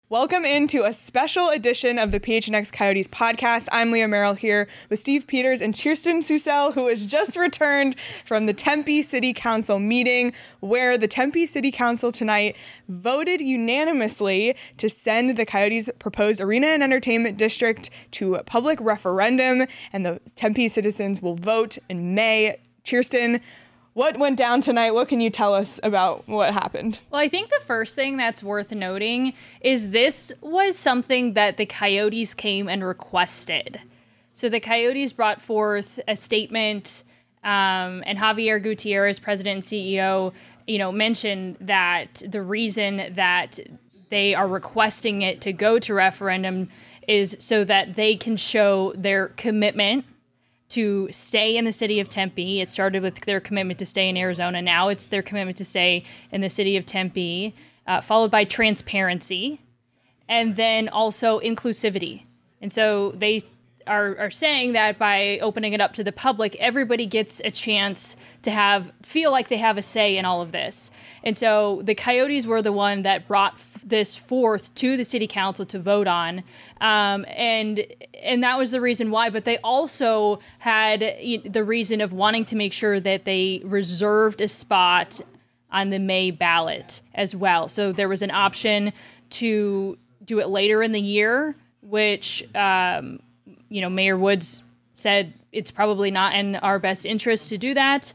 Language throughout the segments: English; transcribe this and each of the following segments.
Welcome into a special edition of the PHNX Coyotes podcast. I'm Leah Merrill here with Steve Peters and Kirsten Susel, who has just returned from the Tempe City Council meeting, where the Tempe City Council tonight voted unanimously to send the Coyotes' proposed arena and entertainment district to a public referendum, and the Tempe citizens will vote in May. Kirsten, what went down tonight? What can you tell us about what happened? Well, I think the first thing that's worth noting is this was something that the Coyotes came and requested. So the Coyotes brought forth a statement, and Javier Gutierrez, president and CEO, mentioned that the reason that they are requesting it to go to referendum is so that they can show their commitment to stay in the city of Tempe. It started with their commitment to stay in Arizona. Now it's their commitment to stay in the city of Tempe, followed by transparency, and then also inclusivity. And so they are saying that by opening it up to the public, everybody gets a chance to feel like they have a say in all of this. And so the Coyotes were the one that brought this forth to the city council to vote on. And that was the reason why. But they also had the reason of wanting to make sure that they reserved a spot on the May ballot as well. So there was an option to do it later in the year, which Mayor Woods said it's probably not in our best interest to do that.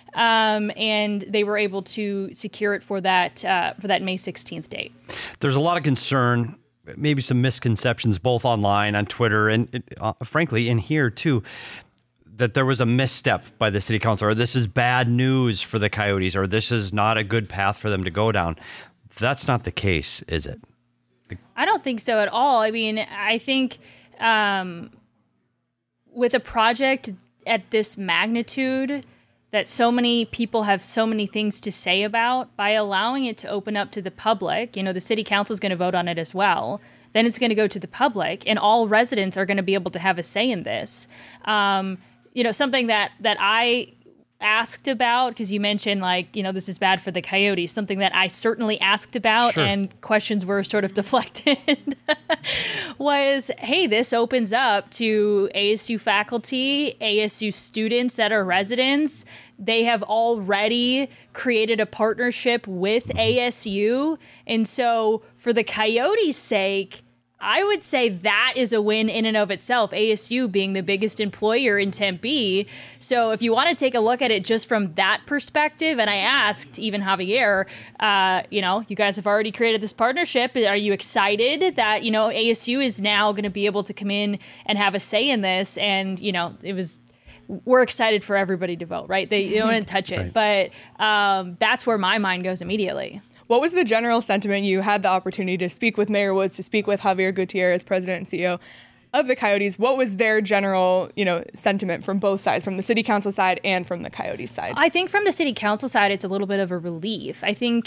And they were able to secure it for that May 16th date. There's a lot of concern, maybe some misconceptions, both online, on Twitter, and frankly, in here too, that there was a misstep by the city council, or this is bad news for the Coyotes, or this is not a good path for them to go down. That's not the case, is it? I don't think so at all. I mean, I think with a project at this magnitude that so many people have so many things to say about, by allowing it to open up to the public, the city council is going to vote on it as well. Then it's going to go to the public, and all residents are going to be able to have a say in this. Something that I asked about, because you mentioned this is bad for the Coyotes, something that I certainly asked about, sure, and questions were sort of deflected, was, hey, this opens up to ASU faculty, ASU students that are residents. They have already created a partnership with ASU. And so for the Coyotes' sake, I would say that is a win in and of itself, ASU being the biggest employer in Tempe. So if you want to take a look at it just from that perspective, and I asked even Javier, you guys have already created this partnership. Are you excited that, ASU is now going to be able to come in and have a say in this? And, we're excited for everybody to vote, right? They don't want to touch it. Right. But that's where my mind goes immediately. What was the general sentiment? You had the opportunity to speak with Mayor Woods, to speak with Javier Gutierrez, president and CEO of the Coyotes. What was their general, sentiment from both sides, from the city council side and from the Coyotes side? I think from the city council side, it's a little bit of a relief. I think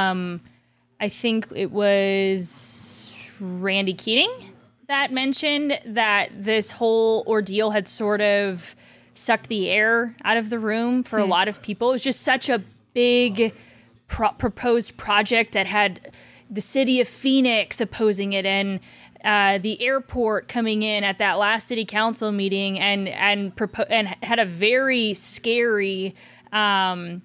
it was Randy Keating that mentioned that this whole ordeal had sort of sucked the air out of the room for a lot of people. It was just such a big proposed project that had the city of Phoenix opposing it, and the airport coming in at that last city council meeting, and had a very scary, I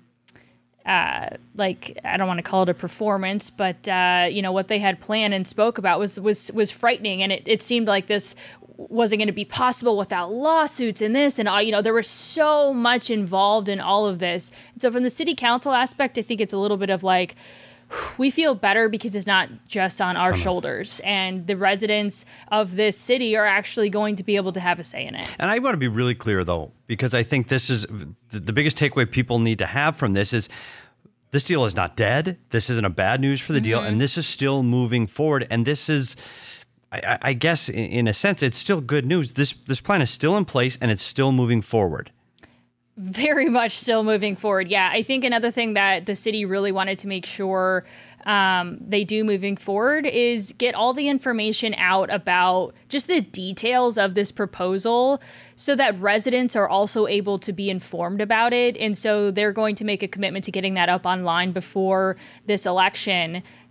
don't want to call it a performance, but what they had planned and spoke about was frightening, and it seemed like this wasn't going to be possible without lawsuits and this and all. There was so much involved in all of this. And so from the city council aspect, I think it's a little bit of we feel better because it's not just on our shoulders, and the residents of this city are actually going to be able to have a say in it. And I want to be really clear, though, because I think this is the biggest takeaway people need to have from this is this deal is not dead. This isn't a bad news for the deal, and this is still moving forward. And this is, I guess, in a sense, it's still good news. This plan is still in place, and it's still moving forward. Very much still moving forward. Yeah, I think another thing that the city really wanted to make sure they do moving forward is get all the information out about just the details of this proposal so that residents are also able to be informed about it. And so they're going to make a commitment to getting that up online before this election.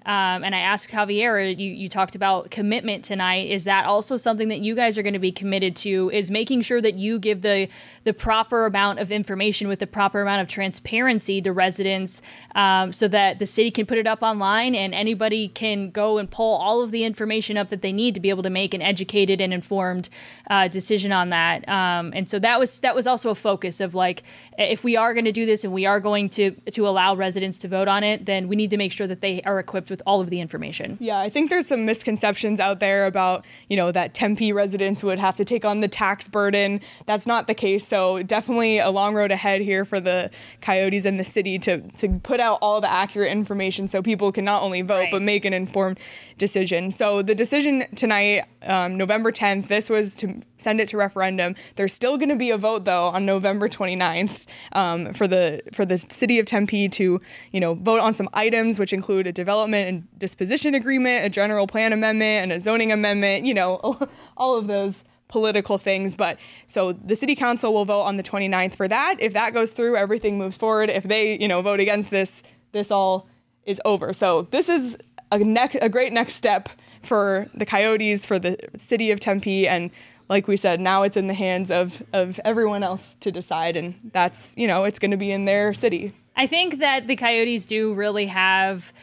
And I asked Javier, you talked about commitment tonight. Is that also something that you guys are going to be committed to, is making sure that you give the proper amount of information with the proper amount of transparency to residents, so that the city can put it up online and anybody can go and pull all of the information up that they need to be able to make an educated and informed decision on that. And so that was also a focus of like, if we are going to do this and we are going to allow residents to vote on it, then we need to make sure that they are equipped with all of the information. Yeah, I think there's some misconceptions out there about, that Tempe residents would have to take on the tax burden. That's not the case. So definitely a long road ahead here for the Coyotes and the city to put out all the accurate information so people can not only vote, Right. but make an informed decision. So the decision tonight, November 10th, this was to send it to referendum. There's still going to be a vote, though, on November 29th for the city of Tempe to, vote on some items, which include a development and disposition agreement, a general plan amendment, and a zoning amendment, all of those political things. But so the city council will vote on the 29th for that. If that goes through, everything moves forward. If they, vote against this all is over. So this is a great next step for the Coyotes, for the city of Tempe, and like we said, now it's in the hands of everyone else to decide, and that's, it's going to be in their city. I think that the Coyotes do really have,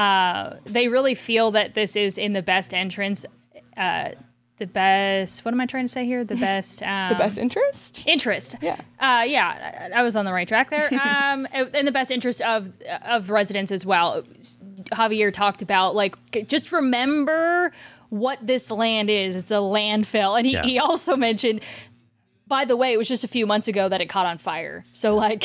they really feel that this is in the best interest, the best, what am I trying to say here? The best... the best interest? Interest. Yeah. Yeah, I was on the right track there. In the best interest of residents as well. Javier talked about, like, just remember what this land is. It's a landfill. And he also mentioned, by the way, it was just a few months ago that it caught on fire. So, like,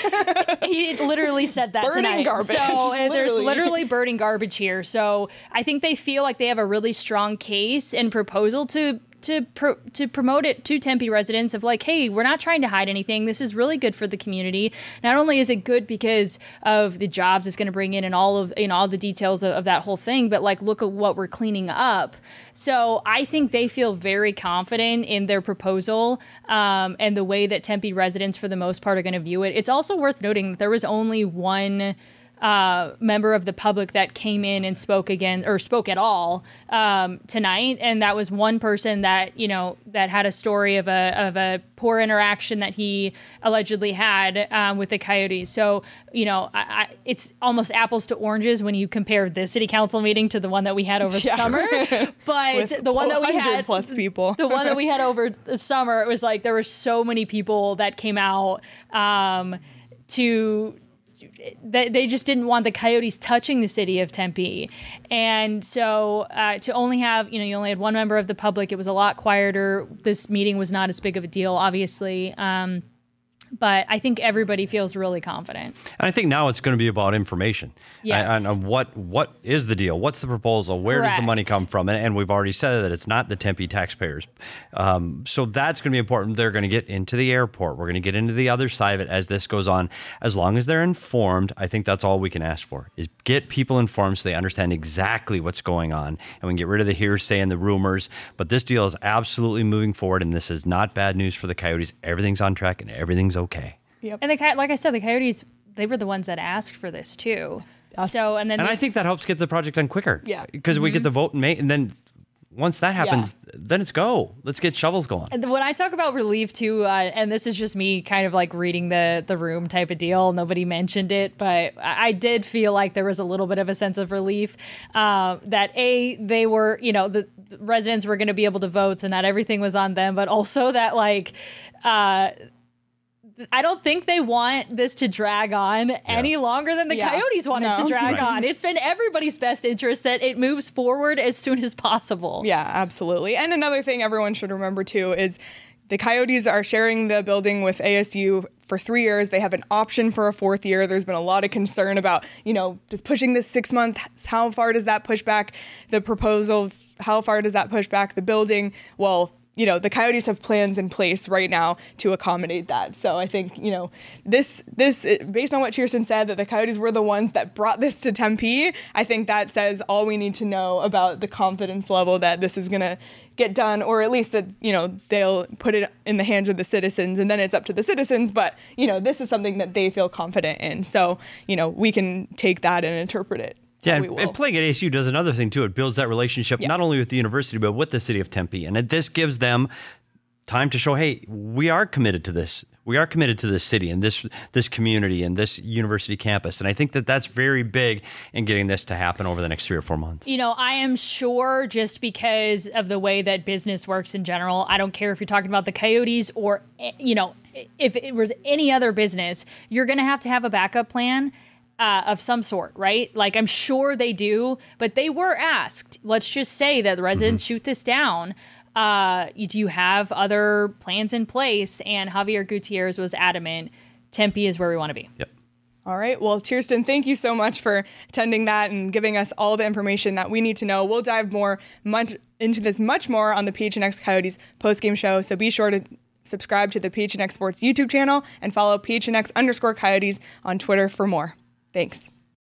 he literally said that burning tonight. Garbage. So there's literally burning garbage here. So I think they feel like they have a really strong case and proposal to promote it to Tempe residents of like, hey, we're not trying to hide anything. This is really good for the community. Not only is it good because of the jobs it's going to bring in and all the details of that whole thing, but like, look at what we're cleaning up. So I think they feel very confident in their proposal and the way that Tempe residents, for the most part, are going to view it. It's also worth noting that there was only one member of the public that came in and spoke at all tonight, and that was one person that that had a story of a poor interaction that he allegedly had with the Coyotes. So it's almost apples to oranges when you compare this city council meeting to the one that we had over the summer. But with the one that we had plus people, the one that we had over the summer, it was like there were so many people that came out they just didn't want the Coyotes touching the city of Tempe. And so to only have, you only had one member of the public, it was a lot quieter. This meeting was not as big of a deal, obviously. But I think everybody feels really confident. And I think now it's going to be about information. Yes. And what is the deal? What's the proposal? Where does the money come from? And we've already said that it's not the Tempe taxpayers. So that's going to be important. They're going to get into the airport. We're going to get into the other side of it as this goes on. As long as they're informed, I think that's all we can ask for, is get people informed so they understand exactly what's going on. And we can get rid of the hearsay and the rumors. But this deal is absolutely moving forward, and this is not bad news for the Coyotes. Everything's on track, and everything's okay. Yep. And like I said, the Coyotes, they were the ones that asked for this too. So and I think that helps get the project done quicker. Yeah. Because we get the vote in May, and then once that happens, then it's go. Let's get shovels going. And when I talk about relief too, and this is just me kind of like reading the room type of deal, nobody mentioned it, but I did feel like there was a little bit of a sense of relief that they were, the residents were going to be able to vote, so not everything was on them, but also that like, I don't think they want this to drag on any longer than the Coyotes want it to drag on. It's been everybody's best interest that it moves forward as soon as possible. Yeah, absolutely. And another thing everyone should remember too is the Coyotes are sharing the building with ASU for 3 years. They have an option for a 4th year. There's been a lot of concern about, just pushing this 6 months. How far does that push back the proposal? How far does that push back the building? Well, the Coyotes have plans in place right now to accommodate that. So I think, this based on what Kirsten said, that the Coyotes were the ones that brought this to Tempe, I think that says all we need to know about the confidence level that this is going to get done, or at least that, they'll put it in the hands of the citizens, and then it's up to the citizens. But, this is something that they feel confident in. So, we can take that and interpret it Yeah, we will. and playing at ASU does another thing too. It builds that relationship not only with the university, but with the city of Tempe. And this gives them time to show, hey, we are committed to this. We are committed to this city and this community and this university campus. And I think that that's very big in getting this to happen over the next 3 or 4 months. You know, I am sure just because of the way that business works in general, I don't care if you're talking about the Coyotes or, you know, if it was any other business, you're going to have a backup plan of some sort, right? Like, I'm sure they do, but they were asked, let's just say that the residents shoot this down. Do you have other plans in place? And Javier Gutierrez was adamant, Tempe is where we want to be. Yep. All right. Well, Kirsten, thank you so much for attending that and giving us all the information that we need to know. We'll dive into this much more on the PHNX Coyotes postgame show. So be sure to subscribe to the PHNX Sports YouTube channel and follow PHNX_Coyotes on Twitter for more. Thanks.